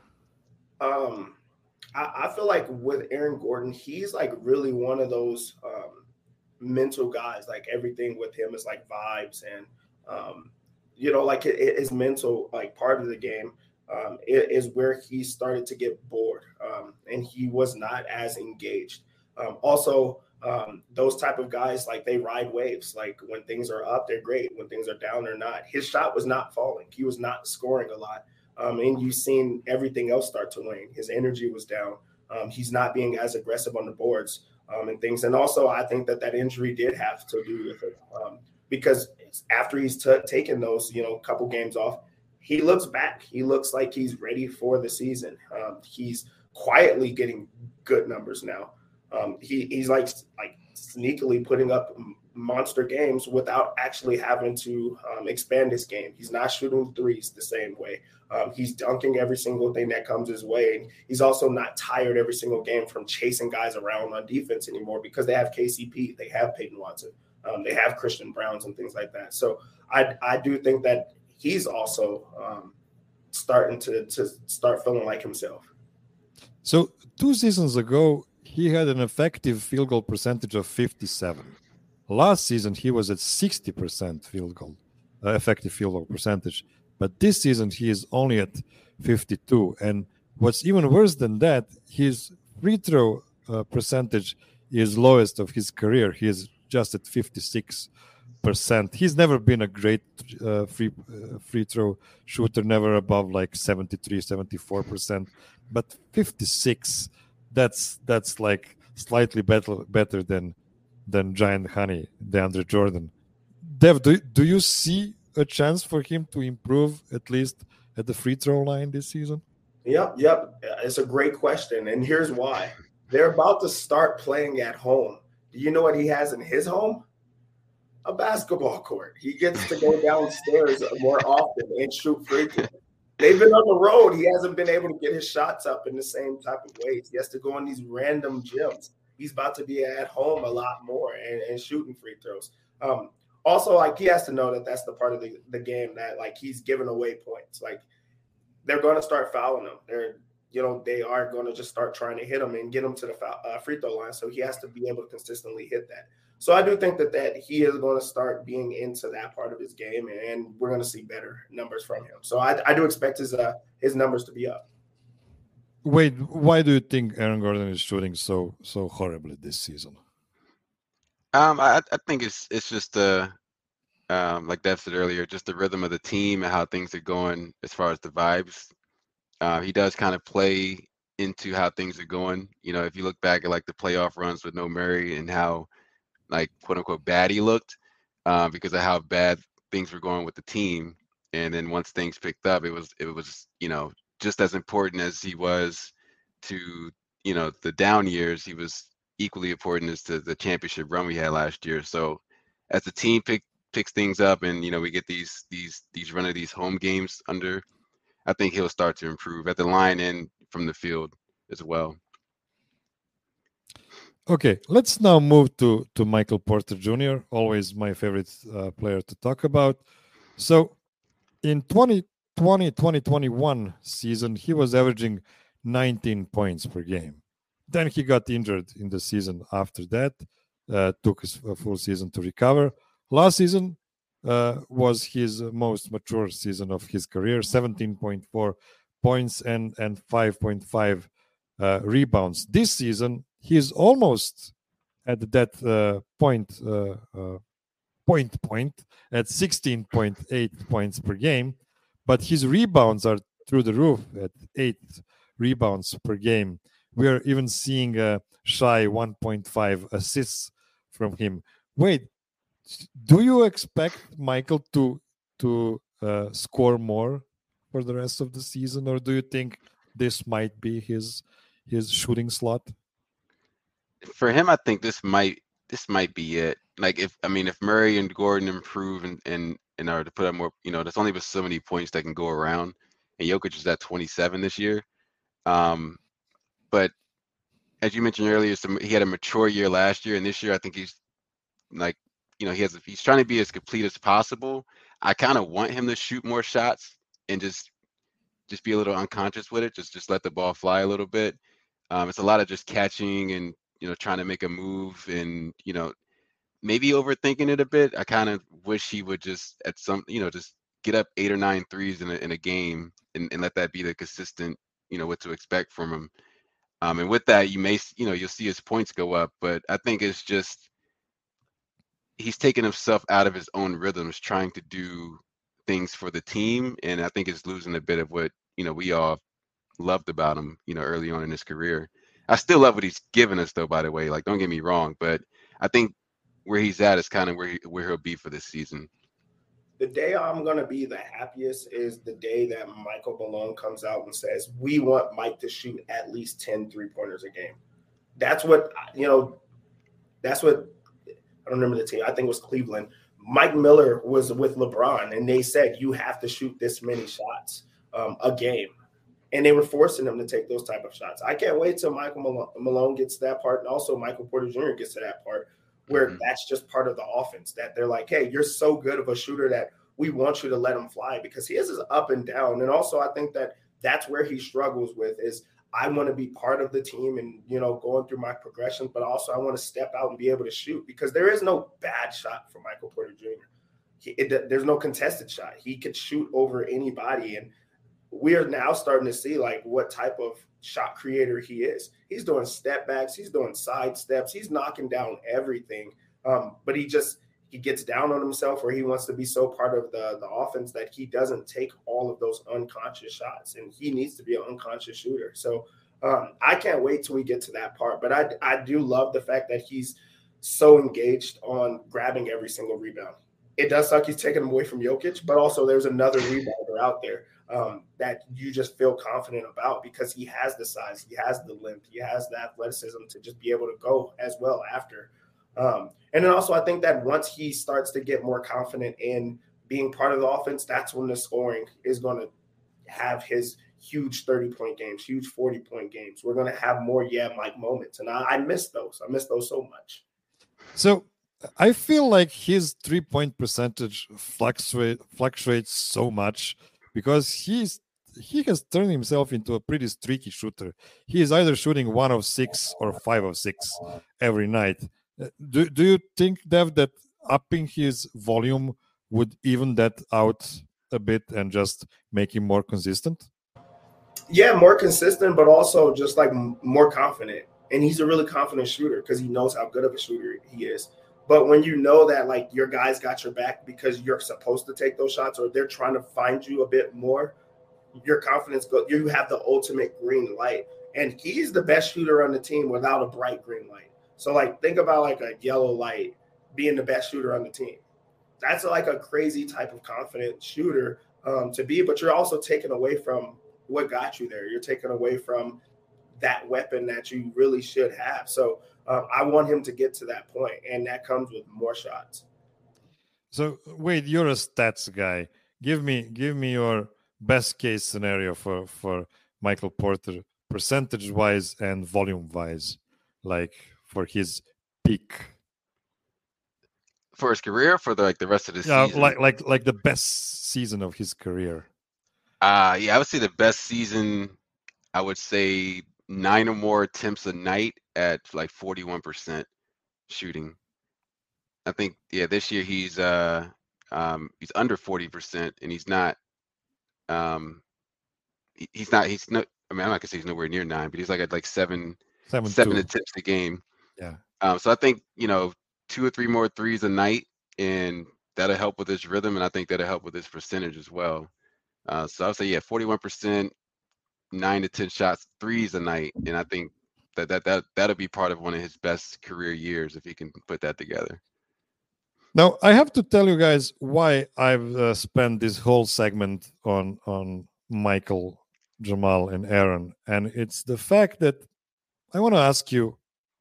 Um, I, I feel like with Aaron Gordon, he's like really one of those um, mental guys. Like everything with him is like vibes, and um, you know, like it, it is mental. Like part of the game um, it, is where he started to get bored, um, and he was not as engaged. Um, also. Um, those type of guys, like they ride waves. Like when things are up, they're great. When things are down, they're not. His shot was not falling. He was not scoring a lot. Um, and you've seen everything else start to wane. His energy was down. Um, he's not being as aggressive on the boards um, and things. And also, I think that that injury did have to do with it um, because after he's t- taken those, you know, couple games off, he looks back. He looks like he's ready for the season. Um, he's quietly getting good numbers now. Um, he, he's like like sneakily putting up monster games without actually having to um, expand his game. He's not shooting threes the same way. Um, he's dunking every single thing that comes his way. And he's also not tired every single game from chasing guys around on defense anymore because they have K C P, they have Peyton Watson, um, they have Christian Browns and things like that. So I I do think that he's also um, starting to to start feeling like himself. So two seasons ago, he had an effective field goal percentage of fifty-seven. Last season, he was at sixty percent field goal, uh, effective field goal percentage. But this season, he is only at fifty-two. And what's even worse than that, his free throw uh, percentage is lowest of his career. He is just at fifty-six percent. He's never been a great uh, free uh, free throw shooter, never above like seventy-three, seventy-four percent. But fifty-six, that's that's like slightly better better than than Giant Honey, DeAndre Jordan. Dev, do, do you see a chance for him to improve at least at the free throw line this season? Yep, yep. It's a great question. And here's why. They're about to start playing at home. Do you know what he has in his home? a basketball court. He gets to go downstairs more often and shoot free throws. They've been on the road. He hasn't been able to get his shots up in the same type of ways. He has to go in these random gyms. He's about to be at home a lot more and, and shooting free throws. Um, also, like, he has to know that that's the part of the, the game that, like, he's giving away points. Like, they're going to start fouling him. They're, you know, they are going to just start trying to hit him and get him to the foul, uh, free throw line. So he has to be able to consistently hit that. So I do think that, that he is going to start being into that part of his game, and we're going to see better numbers from him. So I, I do expect his uh, his numbers to be up. Wait, why do you think Aaron Gordon is shooting so so horribly this season? Um, I, I think it's it's just the um, like Dev said earlier, just the rhythm of the team and how things are going as far as the vibes. Uh, he does kind of play into how things are going. You know, if you look back at like the playoff runs with no Murray and how, like, quote unquote bad he looked, uh, because of how bad things were going with the team. And then once things picked up, it was it was you know just as important as he was to you know the down years. He was equally important as to the championship run we had last year. So as the team pick, picks things up, and you know we get these these these run of these home games under, I think he'll start to improve at the line and from the field as well. Okay, let's now move to, to Michael Porter Junior, always my favorite uh, player to talk about. So in twenty twenty twenty twenty-one season, he was averaging nineteen points per game. Then he got injured in the season after that, uh, took a full season to recover. Last season uh, was his most mature season of his career, seventeen point four points and, and five point five uh, rebounds. This season, he's almost at that uh, point, uh, uh, point point at sixteen point eight points per game, but his rebounds are through the roof at eight rebounds per game. We are even seeing a shy one point five assists from him. Wait, do you expect Michael to to uh, score more for the rest of the season, or do you think this might be his his shooting slot? For him, I think this might this might be it. Like, if I mean, if Murray and Gordon improve and and and are to put up more, you know, there's only but so many points that can go around, and Jokic is at twenty-seven this year. Um, but as you mentioned earlier, some, he had a mature year last year, and this year I think he's like, you know, he has he's trying to be as complete as possible. I kind of want him to shoot more shots and just just be a little unconscious with it, just just let the ball fly a little bit. Um, it's a lot of just catching and, you know, trying to make a move and, you know, maybe overthinking it a bit. I kind of wish he would just at some, you know, just get up eight or nine threes in a, in a game and, and let that be the consistent, you know, what to expect from him. Um, and with that, you may, you know, you'll see his points go up, but I think it's just, he's taking himself out of his own rhythms, trying to do things for the team. And I think it's losing a bit of what, you know, we all loved about him, you know, early on in his career. I still love what he's given us, though, by the way. Like, don't get me wrong, but I think where he's at is kind of where he, where he'll be for this season. The day I'm going to be the happiest is the day that Michael Malone comes out and says, we want Mike to shoot at least ten three-pointers a game. That's what, you know, that's what, I don't remember the team. I think it was Cleveland. Mike Miller was with LeBron, and they said, you have to shoot this many shots um, a game. And they were forcing him to take those type of shots. I can't wait till Michael Malone gets to that part, and also Michael Porter Junior gets to that part where mm-hmm. that's just part of the offense, that they're like, hey, you're so good of a shooter that we want you to let him fly, because he is his up and down. And also I think that that's where he struggles with is I want to be part of the team and, you know, going through my progressions, but also I want to step out and be able to shoot, because there is no bad shot for Michael Porter Junior He, it, there's no contested shot. He could shoot over anybody. And we are now starting to see like what type of shot creator he is. He's doing step backs. He's doing side steps. He's knocking down everything. Um, but he just, he gets down on himself, or he wants to be so part of the, the offense that he doesn't take all of those unconscious shots, and he needs to be an unconscious shooter. So um, I can't wait till we get to that part. But I, I do love the fact that he's so engaged on grabbing every single rebound. It does suck he's taking him away from Jokic, but also there's another rebounder out there um, that you just feel confident about, because he has the size, he has the length, he has the athleticism to just be able to go as well after. Um, and then also, I think that once he starts to get more confident in being part of the offense, that's when the scoring is going to have his huge thirty-point games, huge forty-point games. We're going to have more yeah Mike moments, and I, I miss those. I miss those so much. So I feel like his three-point percentage fluctuate, fluctuates so much because he's he has turned himself into a pretty streaky shooter. He is either shooting one of six or five of six every night. Do, do you think, Dev, that upping his volume would even that out a bit and just make him more consistent? Yeah, more consistent, but also just like more confident. And he's a really confident shooter because he knows how good of a shooter he is. But when you know that like your guys got your back because you're supposed to take those shots or they're trying to find you a bit more, your confidence goes. You have the ultimate green light. And he's the best shooter on the team without a bright green light. So like think about like a yellow light being the best shooter on the team. That's like a crazy type of confident shooter um, to be, but you're also taken away from what got you there. You're taken away from that weapon that you really should have. So um, I want him to get to that point, and that comes with more shots. So wait, you're a stats guy. Give me give me your best case scenario for for Michael Porter, percentage wise and volume wise, like for his peak. For his career, for the like the rest of the Yeah, season, like like like the best season of his career. Uh, yeah, I would say the best season, I would say nine or more attempts a night at like forty-one percent shooting. I think, yeah, this year he's uh um he's under forty percent and he's not um he- he's not he's no I mean I'm not gonna say he's nowhere near nine, but he's like at like seven Seven seven two. attempts a game. Yeah. Um, so I think, you know, two or three more threes a night, and that'll help with his rhythm, and I think that'll help with his percentage as well. Uh, so I would say, yeah, forty-one percent, nine to ten shots, threes a night, and I think that that that that'll be part of one of his best career years if he can put that together. Now I have to tell you guys why I've uh, spent this whole segment on on Michael, Jamal, and Aaron, and it's the fact that I want to ask you: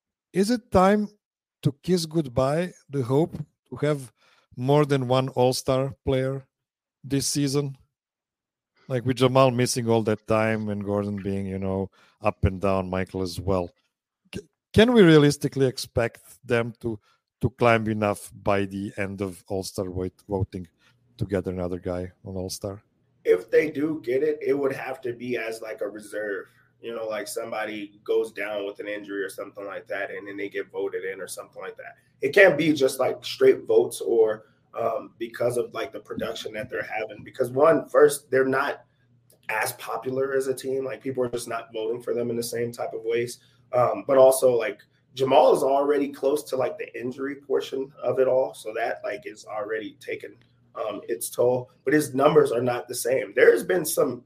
is it time to kiss goodbye the hope to have more than one All-Star player this season? Like with Jamal missing all that time and Gordon being, you know, up and down, Michael as well. C- can we realistically expect them to to climb enough by the end of All-Star voting to get another guy on All-Star? If they do get it, it would have to be as like a reserve. You know, like somebody goes down with an injury or something like that, and then they get voted in or something like that. It can't be just like straight votes or um, because of like the production that they're having. Because one, first, they're not as popular as a team. Like people are just not voting for them in the same type of ways. Um, but also like Jamal is already close to like the injury portion of it all. So that like is already taken um, its toll, but his numbers are not the same. There's been some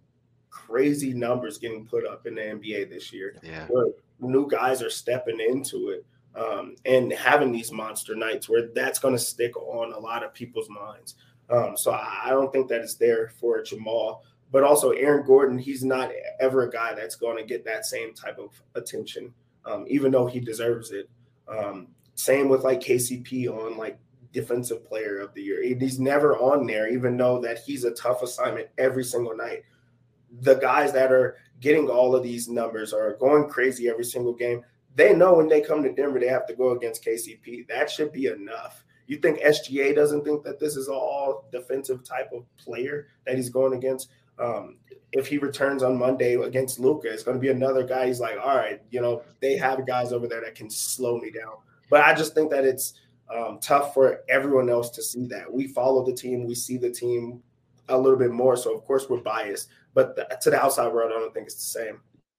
crazy numbers getting put up in the N B A this year Yeah. where new guys are stepping into it um, and having these monster nights where that's going to stick on a lot of people's minds. Um, so I, I don't think that it's there for Jamal. But also Aaron Gordon, he's not ever a guy that's going to get that same type of attention, um, even though he deserves it. Um, same with like K C P on like defensive player of the year. He's never on there, even though that he's a tough assignment every single night. The guys that are getting all of these numbers are going crazy every single game. They know when they come to Denver, they have to go against K C P. That should be enough. You think S G A doesn't think that this is all defensive type of player that he's going against? Um, if he returns on Monday against Luka, it's going to be another guy. He's like, all right, you know, they have guys over there that can slow me down. But I just think that it's um, tough for everyone else to see that. We follow the team. We see the team a little bit more. So, of course, we're biased. But the, to the outside world, I don't think it's the same.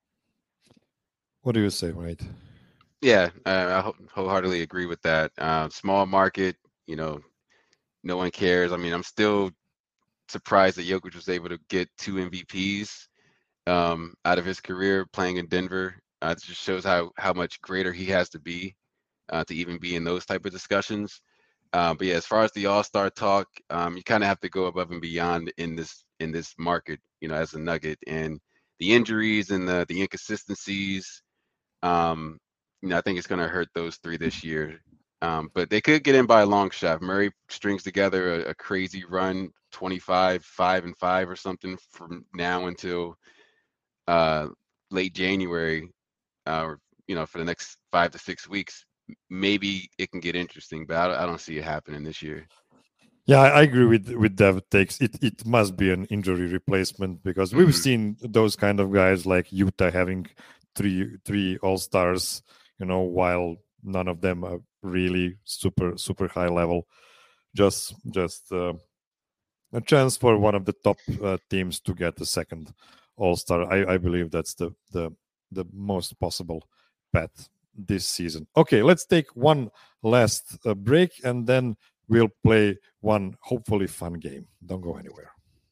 What do you say, Wade? Yeah, uh, I wholeheartedly agree with that. Uh, small market, you know, no one cares. I mean, I'm still surprised that Jokic was able to get two M V Ps um, out of his career playing in Denver. Uh, it just shows how how much greater he has to be uh, to even be in those type of discussions. Uh, but yeah, as far as the All-Star talk, um, you kind of have to go above and beyond in this in this market, you know, as a Nugget, and the injuries and the the inconsistencies. Um, you know, I think it's going to hurt those three this year. Um, but they could get in by a long shot. If Murray strings together a, a crazy run, twenty-five, five and five or something from now until uh, late January, uh, or you know, for the next five to six weeks, maybe it can get interesting. But I don't, I don't see it happening this year. Yeah, I agree with with Dev takes. It it must be an injury replacement because we've Mhm. seen those kind of guys like Utah having three three All Stars, you know, while none of them are really super super high level. Just just uh, a chance for one of the top uh, teams to get the second All Star. I I believe that's the the the most possible bet this season. Okay, let's take one last uh, break and then we'll play one hopefully fun game. Don't go anywhere.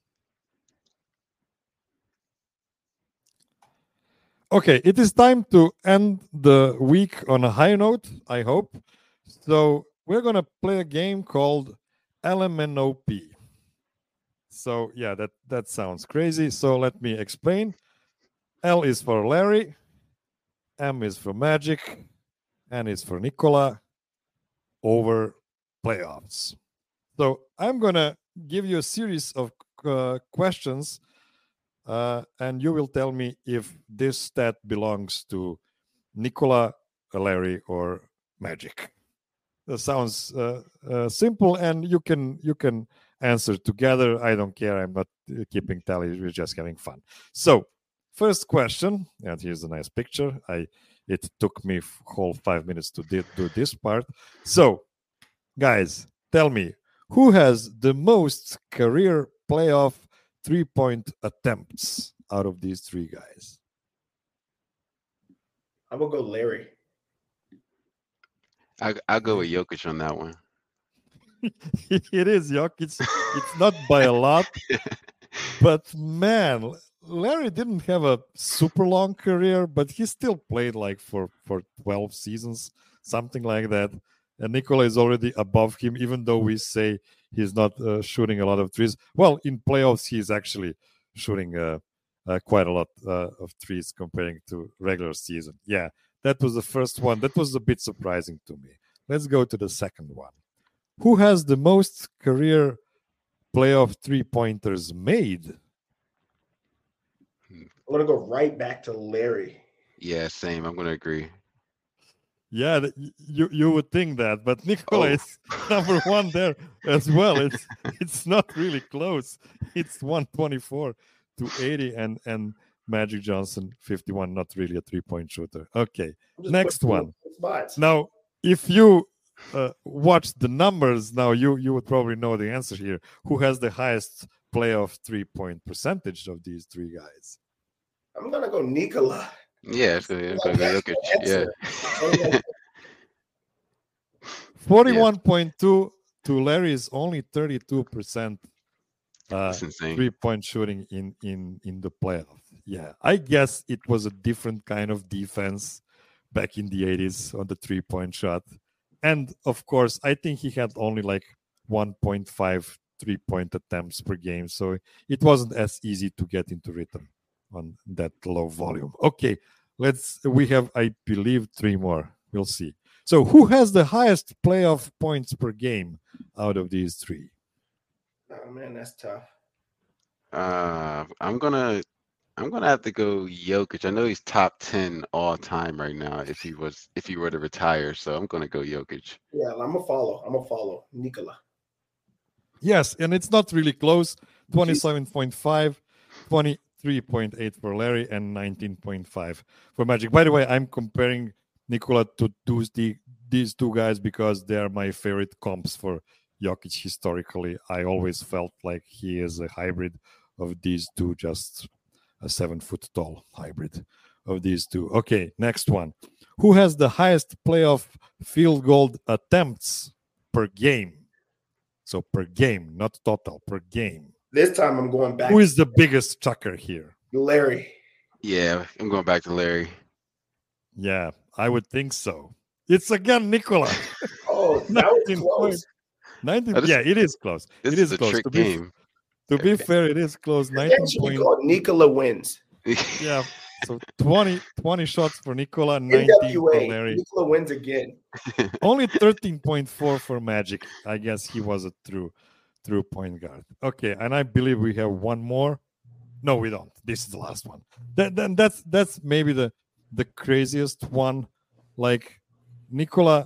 Okay, it is time to end the week on a high note, I hope. So we're going to play a game called L M N O P. So yeah, that, that sounds crazy. So let me explain. L is for Larry, M is for Magic, N is for Nikola, over playoffs. So I'm going to give you a series of uh, questions, uh, and you will tell me if this stat belongs to Nikola, Larry, or Magic. That sounds uh, uh, simple, and you can you can answer together. I don't care. I'm not uh, keeping tally. We're just having fun. So, first question, and here's a nice picture. I it took me whole five minutes to di- do this part. So, guys, tell me, who has the most career playoff three-point attempts out of these three guys? I'm gonna go Larry. I I'll go with Jokic on that one. It is Jokic. It's not by a lot, but man, Larry didn't have a super long career, but he still played like for for twelve seasons, something like that. And Nikola is already above him, even though we say he's not uh, shooting a lot of threes. Well, in playoffs, he's actually shooting uh, uh, quite a lot uh, of threes comparing to regular season. Yeah, that was the first one. That was a bit surprising to me. Let's go to the second one. Who has the most career playoff three-pointers made? I'm gonna go right back to Larry. Yeah, same. I'm gonna agree. Yeah, you you would think that, but Nikola Oh. is number one there as well. It's it's not really close. It's one twenty-four to eighty, and and Magic Johnson fifty-one. Not really a three-point shooter. Okay, next one. Spots. Now, if you uh, watch the numbers, now you you would probably know the answer here. Who has the highest playoff three-point percentage of these three guys? I'm gonna go Nikola. Yeah, it's gonna, it's gonna go Jokic. Yeah. forty-one point two to Larry's only thirty-two percent uh, That's insane. three-point shooting in, in, in the playoff. Yeah, I guess it was a different kind of defense back in the eighties on the three-point shot. And, of course, I think he had only like one point five three-point attempts per game. So it wasn't as easy to get into rhythm on that low volume. Okay, let's, we have, I believe, three more. We'll see. So who has the highest playoff points per game out of these three? Oh man, that's tough. Uh, I'm gonna, I'm gonna have to go Jokic. I know he's top ten all time right now. If he was, if he were to retire, so I'm gonna go Jokic. Yeah, I'm gonna follow. I'm gonna follow Nikola. Yes, and it's not really close. twenty-seven point five, twenty-three point eight for Larry, and nineteen point five for Magic. By the way, I'm comparing Nikola to those, the, these two guys because they are my favorite comps for Jokic historically. I always felt like he is a hybrid of these two, just a seven foot tall hybrid of these two. Okay, next one. Who has the highest playoff field goal attempts per game? So per game, not total, per game. This time I'm going back. Who is the biggest chucker here? Larry. Yeah, I'm going back to Larry. Yeah, I would think so. It's again Nikola. Oh, that was close. nineteen, Just, yeah, it is close. This it is, is a close. trick To be, game. to be fair, it is close. nineteen Actually, point, called Nikola wins. yeah, So twenty, twenty shots for Nikola, nineteen for Larry. Nikola wins again. Only thirteen point four for Magic. I guess he was a true, true point guard. Okay, and I believe we have one more. No, we don't. This is the last one. That, then that's that's maybe the the craziest one. Like Nikola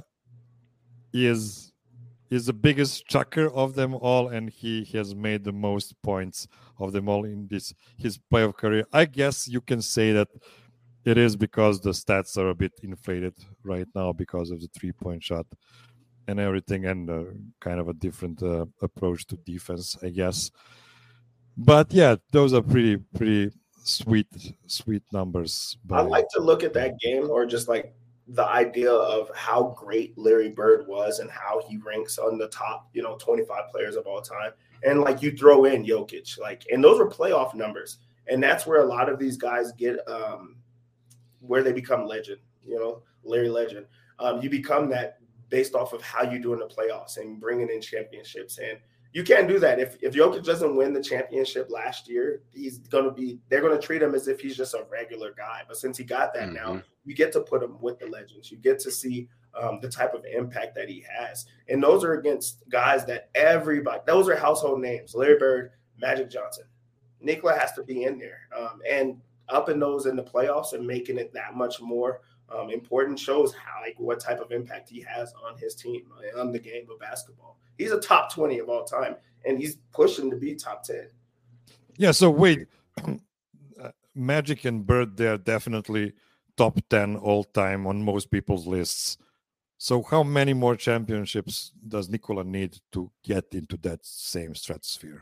is is the biggest chucker of them all, and he has made the most points of them all in this his playoff career. I guess you can say that it is because the stats are a bit inflated right now because of the three-point shot and everything, and uh, kind of a different uh, approach to defense, I guess. But yeah, those are pretty pretty sweet sweet numbers. I like to look at that game, or just like the idea of how great Larry Bird was and how he ranks on the top, you know, twenty-five players of all time. And like you throw in Jokic, like, and those were playoff numbers. And that's where a lot of these guys get um, where they become legend, you know, Larry Legend. Um, you become that based off of how you do in the playoffs and bringing in championships. And you can't do that. If if Jokic doesn't win the championship last year, he's going to be, they're going to treat him as if he's just a regular guy. But since he got that mm-hmm. now, you get to put him with the legends. You get to see um, the type of impact that he has. And those are against guys that everybody, those are household names. Larry Bird, Magic Johnson. Nikola has to be in there. Um, and upping those in the playoffs and making it that much more um, important shows how, like, what type of impact he has on his team, on the game of basketball. He's a top twenty of all time, and he's pushing to be top ten. Yeah, so wait. Magic and Bird, they're definitely top ten all time on most people's lists. So how many more championships does Nikola need to get into that same stratosphere?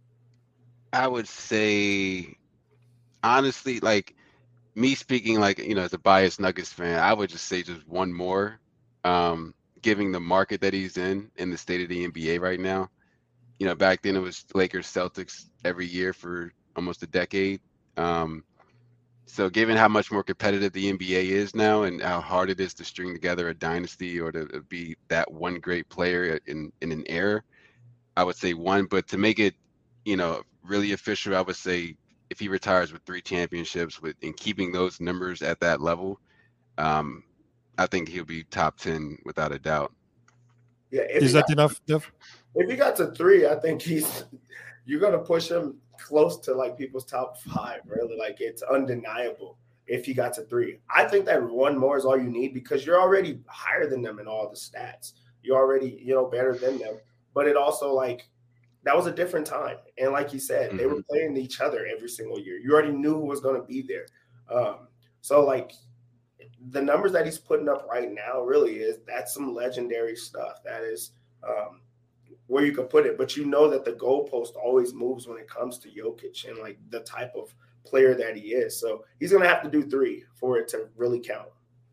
I would say, honestly, like me speaking, like, you know, as a biased Nuggets fan, I would just say just one more. Um, giving the market that he's in in the state of the N B A right now. You know, back then it was Lakers Celtics every year for almost a decade. Um, so given how much more competitive the N B A is now and how hard it is to string together a dynasty or to be that one great player in, in an era, I would say one. But to make it, you know, really official, I would say if he retires with three championships with and keeping those numbers at that level, um, I think he'll be top ten without a doubt. Yeah, is that got, enough, Dev? If he got to three, I think he's you're gonna push him close to like people's top five. Really, like it's undeniable if he got to three. I think that one more is all you need because you're already higher than them in all the stats. You're already, you know, better than them. But it also like that was a different time, and like you said, mm-hmm. they were playing each other every single year. You already knew who was gonna be there. Um, so like. The numbers that he's putting up right now really is that's some legendary stuff. That is um, where you can put it. But you know that the goalpost always moves when it comes to Jokic and like the type of player that he is. So he's going to have to do three for it to really count.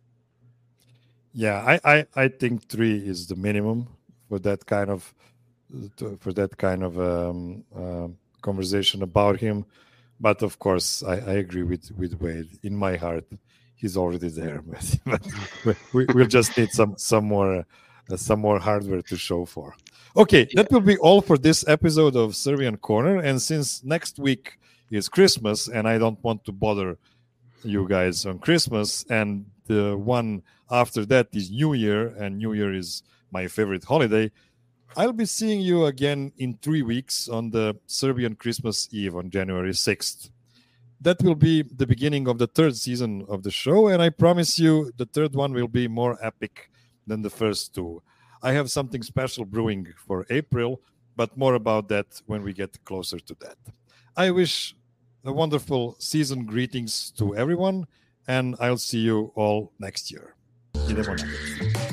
Yeah, I, I, I think three is the minimum for that kind of for that kind of um, uh, conversation about him. But of course, I, I agree with, with Wade. In my heart, he's already there, but, but we, we'll just need some some more uh, some more hardware to show for. Okay, yeah. That will be all for this episode of Serbian Corner. And since next week is Christmas, and I don't want to bother you guys on Christmas, and the one after that is New Year, and New Year is my favorite holiday, I'll be seeing you again in three weeks on the Serbian Christmas Eve on January sixth. That will be the beginning of the third season of the show, and I promise you the third one will be more epic than the first two. I have something special brewing for April, but more about that when we get closer to that. I wish a wonderful season greetings to everyone, and I'll see you all next year. Idemo Nuggets.